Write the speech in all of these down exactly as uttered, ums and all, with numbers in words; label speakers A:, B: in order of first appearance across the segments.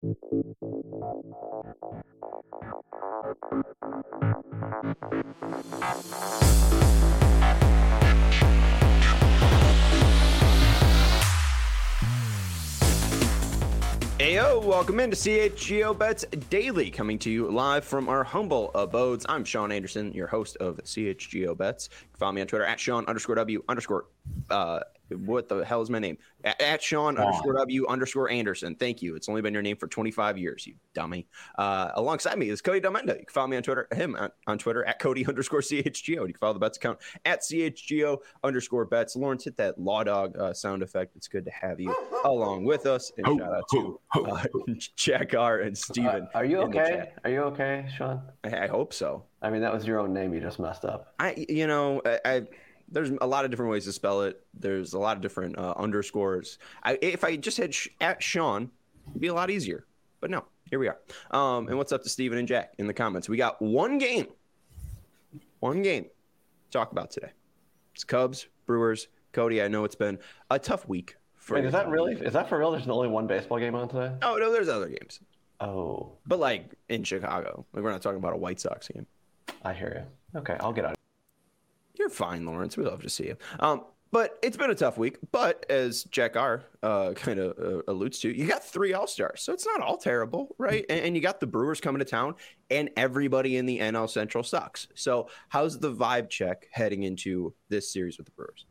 A: Ayo, welcome into C H G O Bets Daily, coming to you live from our humble abodes. I'm Sean Anderson, your host of C H G O Bets. You can follow me on Twitter at Sean underscore W underscore, uh, what the hell is my name? At, at Sean wow. underscore W underscore Anderson. Thank you. It's only been your name for twenty-five years, you dummy. Uh, alongside me is Cody Delmenda. You can follow me on Twitter, him on, on Twitter at Cody underscore C H G O. You can follow the Bets account at C H G O underscore Bets. Lawrence, hit that Law Dog uh, sound effect. It's good to have you along with us. And ho, shout out to uh, Jack R and Steven.
B: Uh, are you okay? Are you okay, Sean?
A: I, I hope so.
B: I mean, that was your own name you just messed up.
A: I, you know, I, I there's a lot of different ways to spell it. There's a lot of different uh, underscores. I, if I just had sh- at Sean, it'd be a lot easier. But no, here we are. Um, and what's up to Steven and Jack in the comments? We got one game, one game to talk about today. It's Cubs, Brewers. Cody, I know it's been a tough week. For
B: Wait, is that really? Is that for real? There's only one baseball game on today?
A: Oh, no, there's other games.
B: Oh.
A: But like in Chicago. Like we're not talking about a White Sox game.
B: I hear you. Okay, I'll get on.
A: You're fine, Lawrence. We love to see you. Um, but it's been a tough week. But as Jack R uh, kind of uh, alludes to, you got three All-Stars. So it's not all terrible, right? And, and you got the Brewers coming to town, and everybody in the N L Central sucks. So how's the vibe check heading into this series with the Brewers?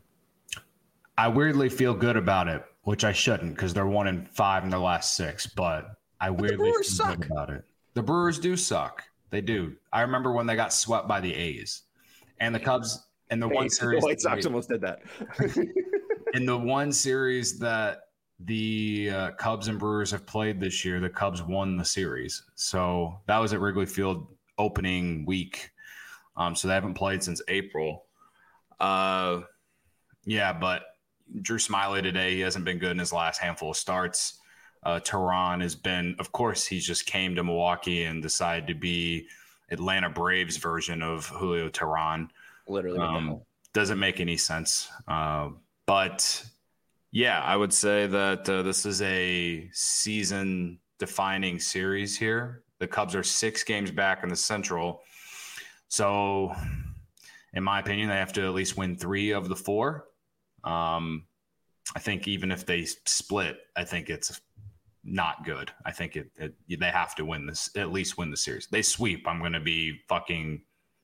C: I weirdly feel good about it, which I shouldn't because they're one in five in their last six. But I but weirdly feel suck. good about it. The Brewers do suck. They do. I remember when they got swept by the A's. And the Cubs in the hey, one series.
A: The White Sox almost did that.
C: In the one series that the uh, Cubs and Brewers have played this year, the Cubs won the series. So that was at Wrigley Field opening week. Um, so they haven't played since April. Uh, yeah, but Drew Smyly today, he hasn't been good in his last handful of starts. Uh, Teheran has been, of course, he just came to Milwaukee and decided to be Atlanta Braves version of Julio Teheran.
A: Literally.
C: Um, doesn't make any sense. Uh, but, yeah, I would say that uh, this is a season-defining series here. The Cubs are six games back in the Central. So, in my opinion, they have to at least win three of the four. Um, I think even if they split, I think it's not good. I think it, it they have to win this, at least win the series. They sweep, I'm going to be fucking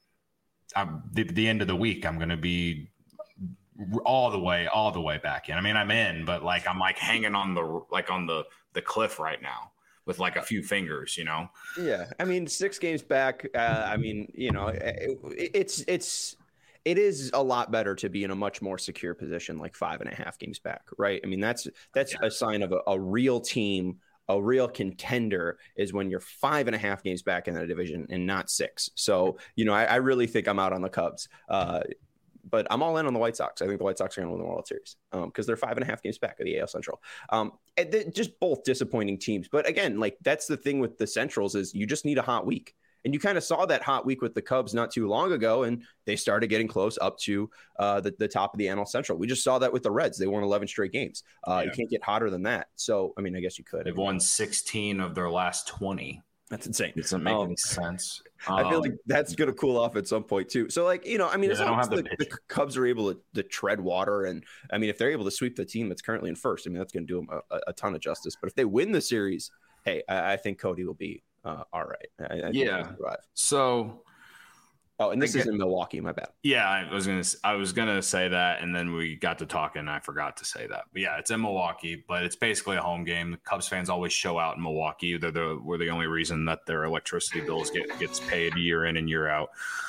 C: I'm, the, the end of the week. I'm going to be all the way, all the way back in. I mean, I'm in, but like I'm like hanging on the like on the the cliff right now with like a few fingers, you know.
A: Yeah, I mean, six games back. Uh, I mean, you know, it, it's it's. It is a lot better to be in a much more secure position, like five and a half games back, right? I mean, that's that's yeah. a sign of a, a real team, a real contender is when you're five and a half games back in the division and not six. So, you know, I, I really think I'm out on the Cubs, uh, but I'm all in on the White Sox. I think the White Sox are going to win the World Series because um, they're five and a half games back of the A L Central. Um, and just both disappointing teams. But again, like that's the thing with the Centrals is you just need a hot week. And you kind of saw that hot week with the Cubs not too long ago, and they started getting close up to uh, the, the top of the N L Central. We just saw that with the Reds. They won eleven straight games. Uh, yeah. You can't get hotter than that. So, I mean, I guess you could.
C: They've won sixteen of their last twenty.
A: That's insane.
C: It doesn't make
A: um,
C: any sense.
A: I feel like that's going to cool off at some point, too. So, like, you know, I mean, yeah, as long as the, the Cubs are able to, to tread water, and, I mean, if they're able to sweep the team that's currently in first, I mean, that's going to do them a, a ton of justice. But if they win the series, hey, I, I think Cody will be Uh, all right. I, I
C: yeah. So,
A: oh, and this is in Milwaukee. My bad.
C: Yeah, I was gonna. I was gonna say that, and then we got to talking, and I forgot to say that. But yeah, it's in Milwaukee, but it's basically a home game. The Cubs fans always show out in Milwaukee. They're the we're the only reason that their electricity bills get gets paid year in and year out.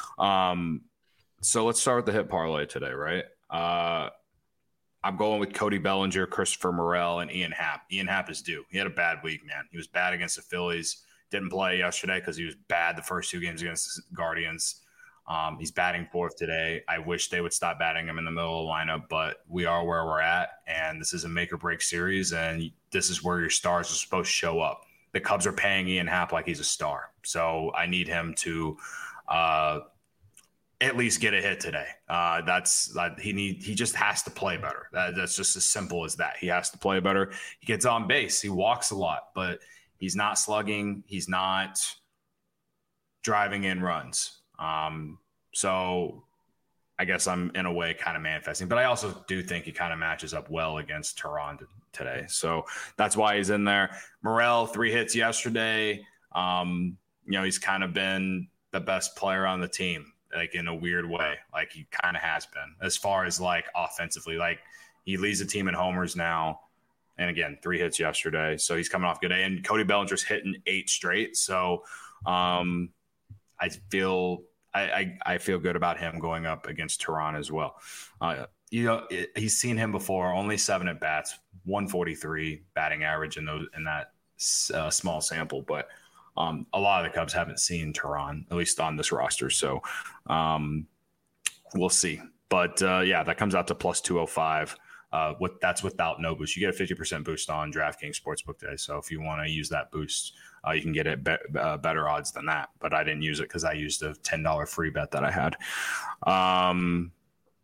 C: Um, so let's start with the hit parlay today, right? Uh, I'm going with Cody Bellinger, Christopher Morel, and Ian Happ. Ian Happ is due. He had a bad week, man. He was bad against the Phillies. Didn't play yesterday because he was bad the first two games against the Guardians. Um, he's batting fourth today. I wish they would stop batting him in the middle of the lineup, but we are where we're at, and this is a make-or-break series, and this is where your stars are supposed to show up. The Cubs are paying Ian Happ like he's a star, so I need him to uh, at least get a hit today. Uh, that's that he need. He just has to play better. That, that's just as simple as that. He has to play better. He gets on base. He walks a lot, but He's not slugging. He's not driving in runs. Um, so I guess I'm in a way kind of manifesting, but I also do think he kind of matches up well against Tehran today. So that's why he's in there. Morel, three hits yesterday. Um, you know, he's kind of been the best player on the team, like in a weird way. Like he kind of has been as far as like offensively, like he leads the team in homers now. And again, three hits yesterday. So he's coming off a good day. And Cody Bellinger's hitting eight straight. So um, I feel I, I, I feel good about him going up against Tehran as well. Uh, you know, it, he's seen him before. Only seven at bats, one forty-three batting average in those in that uh, small sample. But um, a lot of the Cubs haven't seen Tehran, at least on this roster. So um, we'll see. But uh, yeah, that comes out to plus two oh five. Uh, with, that's without no boost. You get a fifty percent boost on DraftKings Sportsbook today. So if you want to use that boost, uh, you can get it be- uh, better odds than that. But I didn't use it because I used a ten dollars free bet that I had. Um,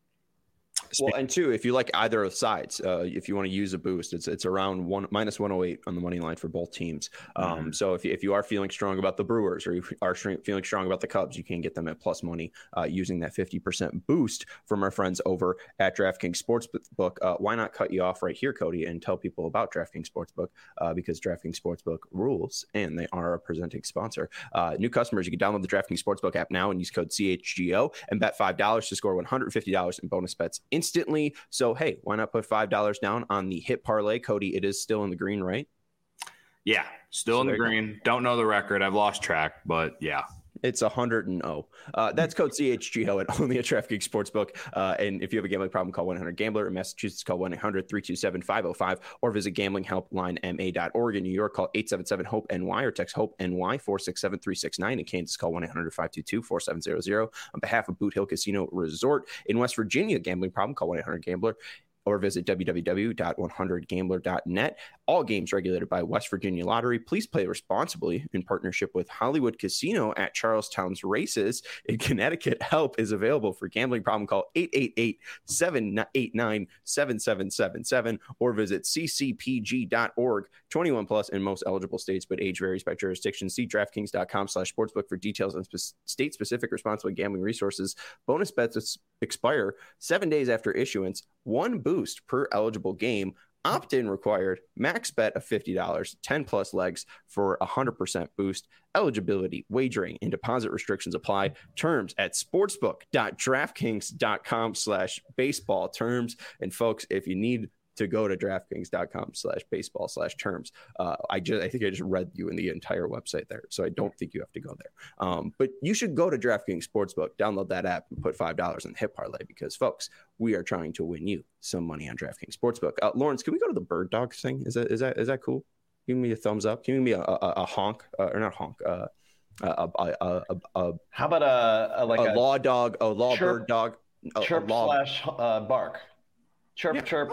A: Well, and two, if you like either of the sides, uh, if you want to use a boost, it's it's around one minus one oh eight on the money line for both teams. Um, mm-hmm. So if you, if you are feeling strong about the Brewers or you are feeling strong about the Cubs, you can get them at plus money uh, using that fifty percent boost from our friends over at DraftKings Sportsbook. Uh, why not cut you off right here, Cody, and tell people about DraftKings Sportsbook uh, because DraftKings Sportsbook rules and they are a presenting sponsor. Uh, new customers, you can download the DraftKings Sportsbook app now and use code C H G O and bet five dollars to score one hundred fifty dollars in bonus bets instantly. So, hey, why not put five dollars down on the hit parlay? Cody, it is still in the green, right?
C: Yeah, still so in the green. Go. Don't know the record. I've lost track, but yeah.
A: It's one hundred and oh. Uh, that's code C H G O at only at DraftKings Sportsbook. Uh, and if you have a gambling problem, call one eight hundred gambler. In Massachusetts, call one eight hundred three two seven five oh five or visit gambling helpline m a dot org. In New York, call eight seven seven hope N Y or text HOPE-NY four six seven three six nine. In Kansas, call one eight hundred five two two four seven zero zero. On behalf of Boot Hill Casino Resort. In West Virginia, gambling problem, call one eight hundred gambler. Or visit w w w dot one hundred gambler dot net. All games regulated by West Virginia Lottery. Please play responsibly in partnership with Hollywood Casino at Charlestown's Races in Connecticut. Help is available for gambling problem. Call eight eight eight, seven eight nine, seven seven seven seven or visit c c p g dot org. twenty-one plus in most eligible states, but age varies by jurisdiction. See DraftKings dot com slash sportsbook for details on spe- state-specific responsible gambling resources. Bonus bets expire seven days after issuance. One boost per eligible game. Opt-in required. Max bet of fifty dollars. ten plus legs for a one hundred percent boost. Eligibility, wagering, and deposit restrictions apply. Terms at sportsbook dot draftkings dot com slash baseball terms. And folks, if you need to go to DraftKings dot com slash baseball slash terms. Uh, I just, I think I just read you in the entire website there. So I don't think you have to go there. Um, but you should go to DraftKings Sportsbook, download that app and put five dollars in the hit parlay because folks, we are trying to win you some money on DraftKings Sportsbook. Uh, Lawrence, can we go to the Bird Dogs thing? Is that, is that, is that cool? Give me a thumbs up. Give me a, a, a honk uh, or not honk. Uh, a, a, a, a, a,
B: How about a, a like
A: a,
B: a
A: law dog, a law
B: chirp,
A: bird dog, a,
B: chirp
A: a law...
B: slash uh, bark. Chirp, yeah. chirp.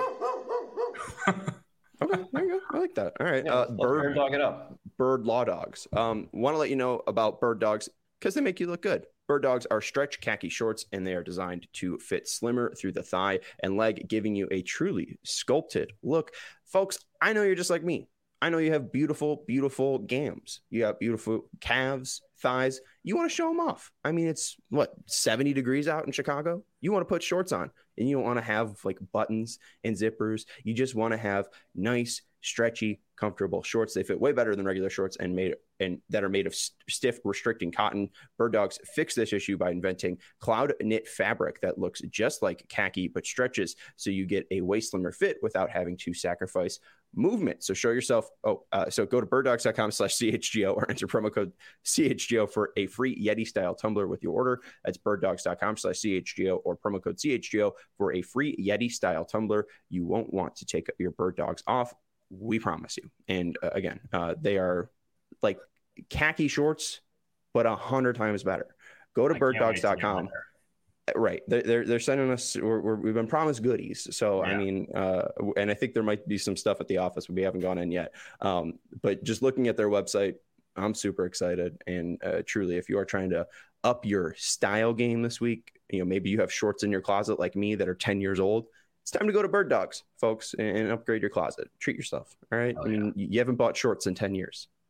A: Okay, there you go. I like that. All right.
B: Yeah,
A: uh,
B: let's, let's
A: bird
B: dog it up.
A: Bird law dogs. Um, want to let you know about bird dogs because they make you look good. Bird dogs are stretch khaki shorts and they are designed to fit slimmer through the thigh and leg, giving you a truly sculpted look. Folks, I know you're just like me. I know you have beautiful, beautiful gams. You have beautiful calves, thighs. You want to show them off. I mean, it's what, seventy degrees out in Chicago? You want to put shorts on and you don't want to have like buttons and zippers. You just want to have nice, stretchy, comfortable shorts. They fit way better than regular shorts and made and that are made of st- stiff, restricting cotton. Bird Dogs fix this issue by inventing cloud knit fabric that looks just like khaki but stretches so you get a way slimmer fit without having to sacrifice movement. So show yourself. Oh, uh, so go to bird dogs dot com slash C H G O or enter promo code C H G O for a free Yeti style tumbler with your order. That's bird dogs dot com slash C H G O or promo code C H G O for a free Yeti style tumbler. You won't want to take your bird dogs off. We promise you. And uh, again, uh, they are like khaki shorts, but a hundred times better. Go to bird dogs dot com. Right. They're, they're sending us, we're, we're, we've been promised goodies. So, yeah. I mean, uh, and I think there might be some stuff at the office, but we haven't gone in yet. Um, but just looking at their website, I'm super excited. And uh, truly, if you are trying to up your style game this week, you know, maybe you have shorts in your closet like me that are ten years old. It's time to go to Bird Dogs, folks, and, and upgrade your closet. Treat yourself. All right. Oh, I mean, yeah. you haven't bought shorts in ten years.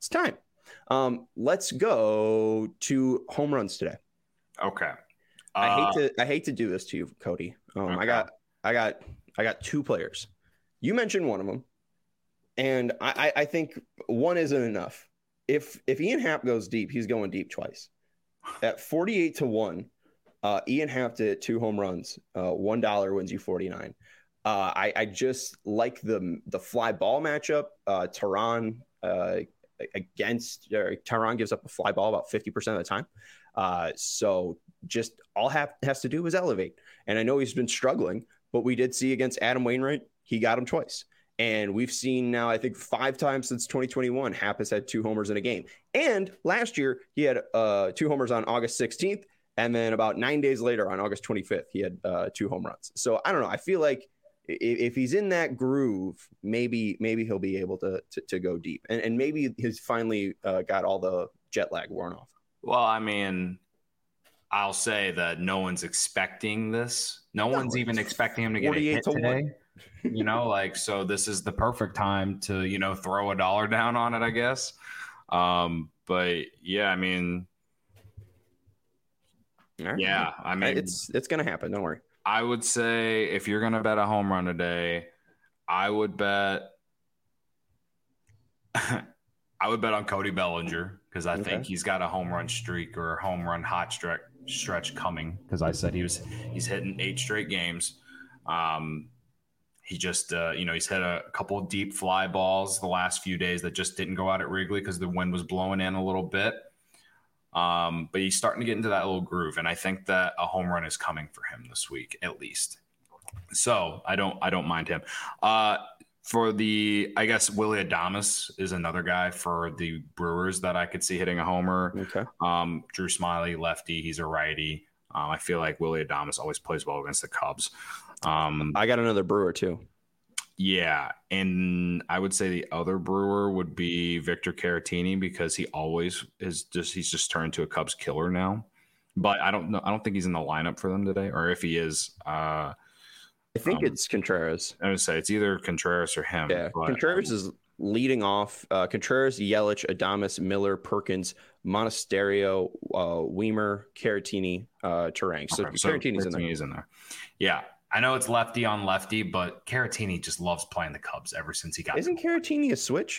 A: It's time. Um, let's go to home runs today.
C: Okay. Uh,
A: I hate to I hate to do this to you, Cody. Um,
C: okay.
A: I got I got I got two players. You mentioned one of them, and I, I think one isn't enough. If if Ian Happ goes deep, he's going deep twice. At forty-eight to one, uh, Ian Happ did two home runs. Uh, one dollar wins you forty-nine. Uh, I, I just like the the fly ball matchup. Uh, Tehran uh, against or Tehran gives up a fly ball about fifty percent of the time. Uh, so just all Happ has to do is elevate. And I know he's been struggling, but we did see against Adam Wainwright, he got him twice. And we've seen now, I think, five times since twenty twenty-one, Happ has had two homers in a game. And last year, he had uh, two homers on August sixteenth. And then about nine days later, on August twenty-fifth, he had uh, two home runs. So I don't know. I feel like if, if he's in that groove, maybe maybe he'll be able to to, to go deep. And, and maybe he's finally uh, got all the jet lag worn off.
C: Well, I mean, I'll say that no one's expecting this. No, no one's even expecting him to get a hit to today. One. You know, like, so this is the perfect time to, you know, throw a dollar down on it, I guess. Um, but yeah, I mean, right. yeah, I mean,
A: it's it's gonna happen. Don't worry.
C: I would say if you're gonna bet a home run today, I would bet. I would bet on Cody Bellinger because I okay. think he's got a home run streak or a home run hot stretch stretch coming. Because I said he was he's hitting eight straight games. Um, he just uh, you know he's hit a couple of deep fly balls the last few days that just didn't go out at Wrigley because the wind was blowing in a little bit. Um, but he's starting to get into that little groove, and I think that a home run is coming for him this week at least. So I don't I don't mind him. Uh, For the, I guess Willy Adames is another guy for the Brewers that I could see hitting a homer.
A: Okay.
C: Um, Drew Smyly, lefty, he's a righty. Um, I feel like Willy Adames always plays well against the Cubs. Um,
A: I got another Brewer too.
C: Yeah, and I would say the other Brewer would be Victor Caratini because he always is just he's just turned to a Cubs killer now. But I don't know. I don't think he's in the lineup for them today, or if he is. Uh,
A: I think um, it's Contreras.
C: I would say it's either Contreras or him.
A: Yeah, but, Contreras um, is leading off. Uh, Contreras, Yelich, Adames, Miller, Perkins, Monasterio, uh, Weimer, Caratini, uh, Terang. So, okay, so Caratini's in there.
C: in there. Yeah, I know it's lefty on lefty, but Caratini just loves playing the Cubs ever since he got.
A: Isn't Caratini a switch?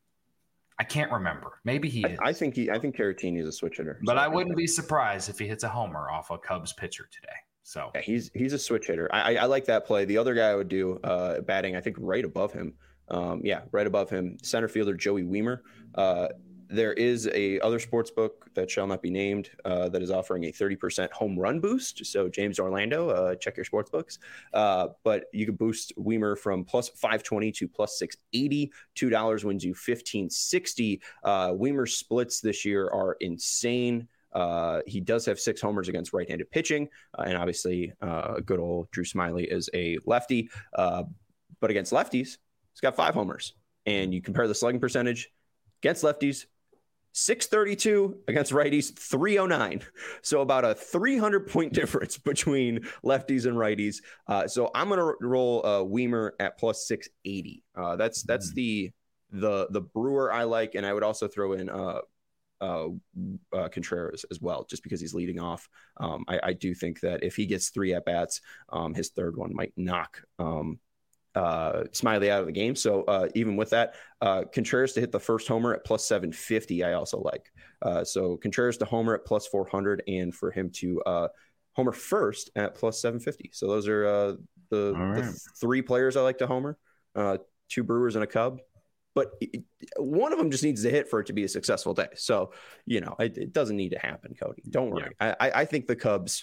C: I can't remember. Maybe he.
A: I,
C: is.
A: I think he. I think Caratini is a switch hitter.
C: But so I wouldn't be surprised if he hits a homer off a Cubs pitcher today. So
A: yeah, he's he's a switch hitter. I, I I like that play. The other guy I would do uh, batting, I think right above him. Um, yeah, right above him, center fielder Joey Weimer. Uh, there is a other sports book that shall not be named uh, that is offering a thirty percent home run boost. So James Orlando, uh, check your sports books. Uh, but you can boost Weimer from plus five twenty to plus six eighty. two dollars wins you fifteen sixty. Uh, Weimer's splits this year are insane. Uh, he does have six homers against right-handed pitching, uh, and obviously, uh, good old Drew Smyly is a lefty. Uh, but against lefties, he's got five homers. And you compare the slugging percentage against lefties, six thirty-two against righties, three oh nine. So about a three hundred point difference between lefties and righties. Uh, so I'm going to roll uh, Weimer at plus six eighty. Uh, that's that's the the the Brewer I like, and I would also throw in. Uh, Uh, uh, Contreras as well, just because he's leading off. Um, I, I do think that if he gets three at bats, um, his third one might knock um, uh, Smyly out of the game. So uh, even with that, uh, Contreras to hit the first homer at plus seven fifty, I also like. Uh, so Contreras to homer at plus four hundred, and for him to uh, homer first at plus seven fifty. So those are uh, the, right. the three players I like to homer. Uh, two Brewers and a Cub. But one of them just needs to hit for it to be a successful day. So, you know, it, it doesn't need to happen, Cody. Don't worry. Yeah. I, I think the Cubs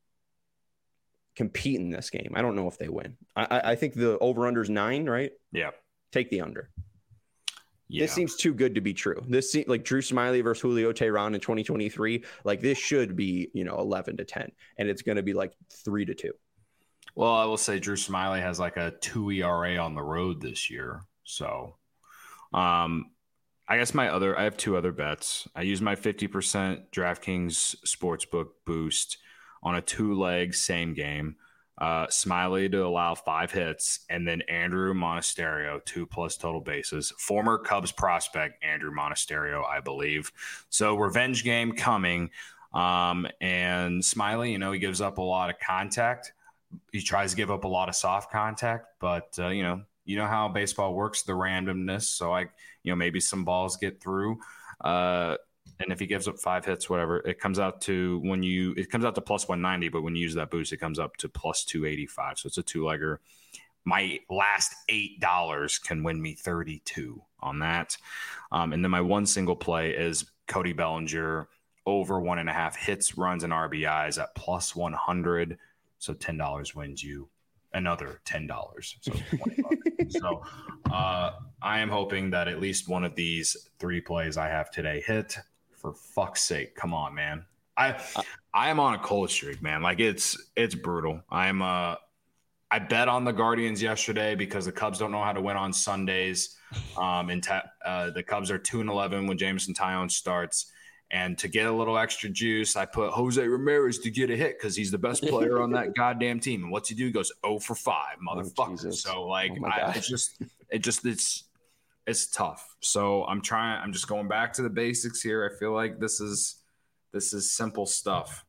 A: compete in this game. I don't know if they win. I, I think the over-under is nine, right?
C: Yeah.
A: Take the under.
C: Yeah.
A: This seems too good to be true. This seems like Drew Smyly versus Julio Tehran in twenty twenty-three. Like this should be, you know, eleven to ten, and it's going to be like three to two.
C: Well, I will say Drew Smyly has like a two E R A on the road this year. So, um, I guess my other, I have two other bets. I use my fifty percent DraftKings Sportsbook boost on a two leg same game. uh, Smiley to allow five hits, and then Andrew Monasterio, two plus total bases. Former Cubs prospect Andrew Monasterio, I believe. So revenge game coming. Um, and Smiley, you know, he gives up a lot of contact. He tries to give up a lot of soft contact, but, uh, you know, you know how baseball works, the randomness. So, I, you know, maybe some balls get through. Uh, and if he gives up five hits, whatever, it comes out to when you, it comes out to plus one ninety, but when you use that boost, it comes up to plus two eighty-five. So it's a two legger. My last eight dollars can win me thirty-two on that. Um, and then my one single play is Cody Bellinger over one and a half hits, runs, and R B Is at plus one hundred. So ten dollars wins you another ten dollars. So twenty bucks. So uh, I am hoping that at least one of these three plays I have today hit. For fuck's sake, come on, man. I I am on a cold streak, man. Like it's it's brutal. I'm uh I bet on the Guardians yesterday because the Cubs don't know how to win on Sundays. Um, and ta- uh, the Cubs are two and eleven when Jameson Taillon starts. And to get a little extra juice, I put Jose Ramirez to get a hit because he's the best player on that goddamn team. And what's he do? He goes oh for five, motherfucker. Oh, so like,
A: oh
C: I, it's just, it just, it's, it's tough. So I'm trying. I'm just going back to the basics here. I feel like this is, this is simple stuff.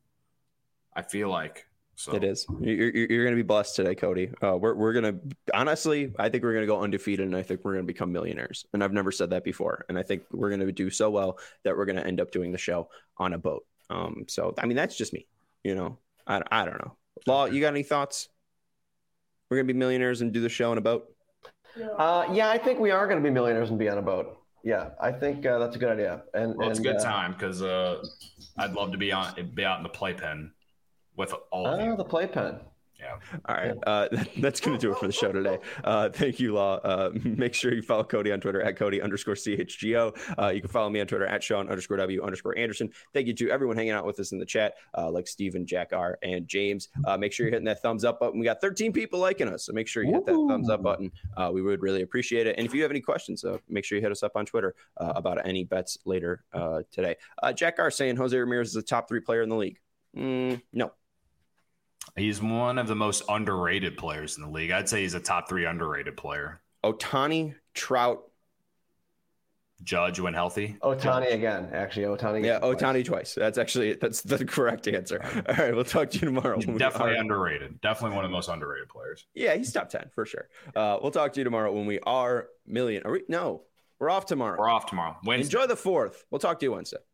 C: I feel like. So.
A: It is. You're, you're going to be blessed today, Cody. Uh, we're we're going to honestly, I think we're going to go undefeated, and I think we're going to become millionaires. And I've never said that before. And I think we're going to do so well that we're going to end up doing the show on a boat. Um, so I mean, that's just me. You know, I I don't know. Law, you got any thoughts? We're going to be millionaires and do the show on a boat.
B: Uh, yeah, I think we are going to be millionaires and be on a boat. Yeah, I think uh, that's a good idea. And
C: well, it's
B: and,
C: a good
B: uh,
C: time because uh, I'd love to be on be out in the playpen. With all of
B: oh,
C: you.
B: the playpen.
C: Yeah.
A: All right. Uh, that's going to do it for the show today. Uh, thank you, Law. Uh, make sure you follow Cody on Twitter at Cody underscore C H G O. Uh, you can follow me on Twitter at Sean underscore W underscore Anderson. Thank you to everyone hanging out with us in the chat, uh, like Steven, Jack R, and James. Uh, make sure you're hitting that thumbs up button. We got thirteen people liking us, so make sure you hit that thumbs up button. Uh, we would really appreciate it. And if you have any questions, uh, make sure you hit us up on Twitter uh, about any bets later uh, today. Uh, Jack R saying Jose Ramirez is a top three player in the league. Mm, no.
C: He's one of the most underrated players in the league. I'd say he's a top three underrated player.
A: Ohtani, Trout,
C: Judge when healthy.
B: Ohtani again, actually. Ohtani.
A: Yeah, Ohtani twice. twice. That's actually that's the correct answer. All right, we'll talk to you tomorrow.
C: Definitely underrated. Definitely one of the most underrated players.
A: Yeah, he's top ten for sure. Uh, we'll talk to you tomorrow when we are million. Are we? No, we're off tomorrow.
C: We're off tomorrow. Wednesday.
A: Enjoy the fourth. We'll talk to you Wednesday.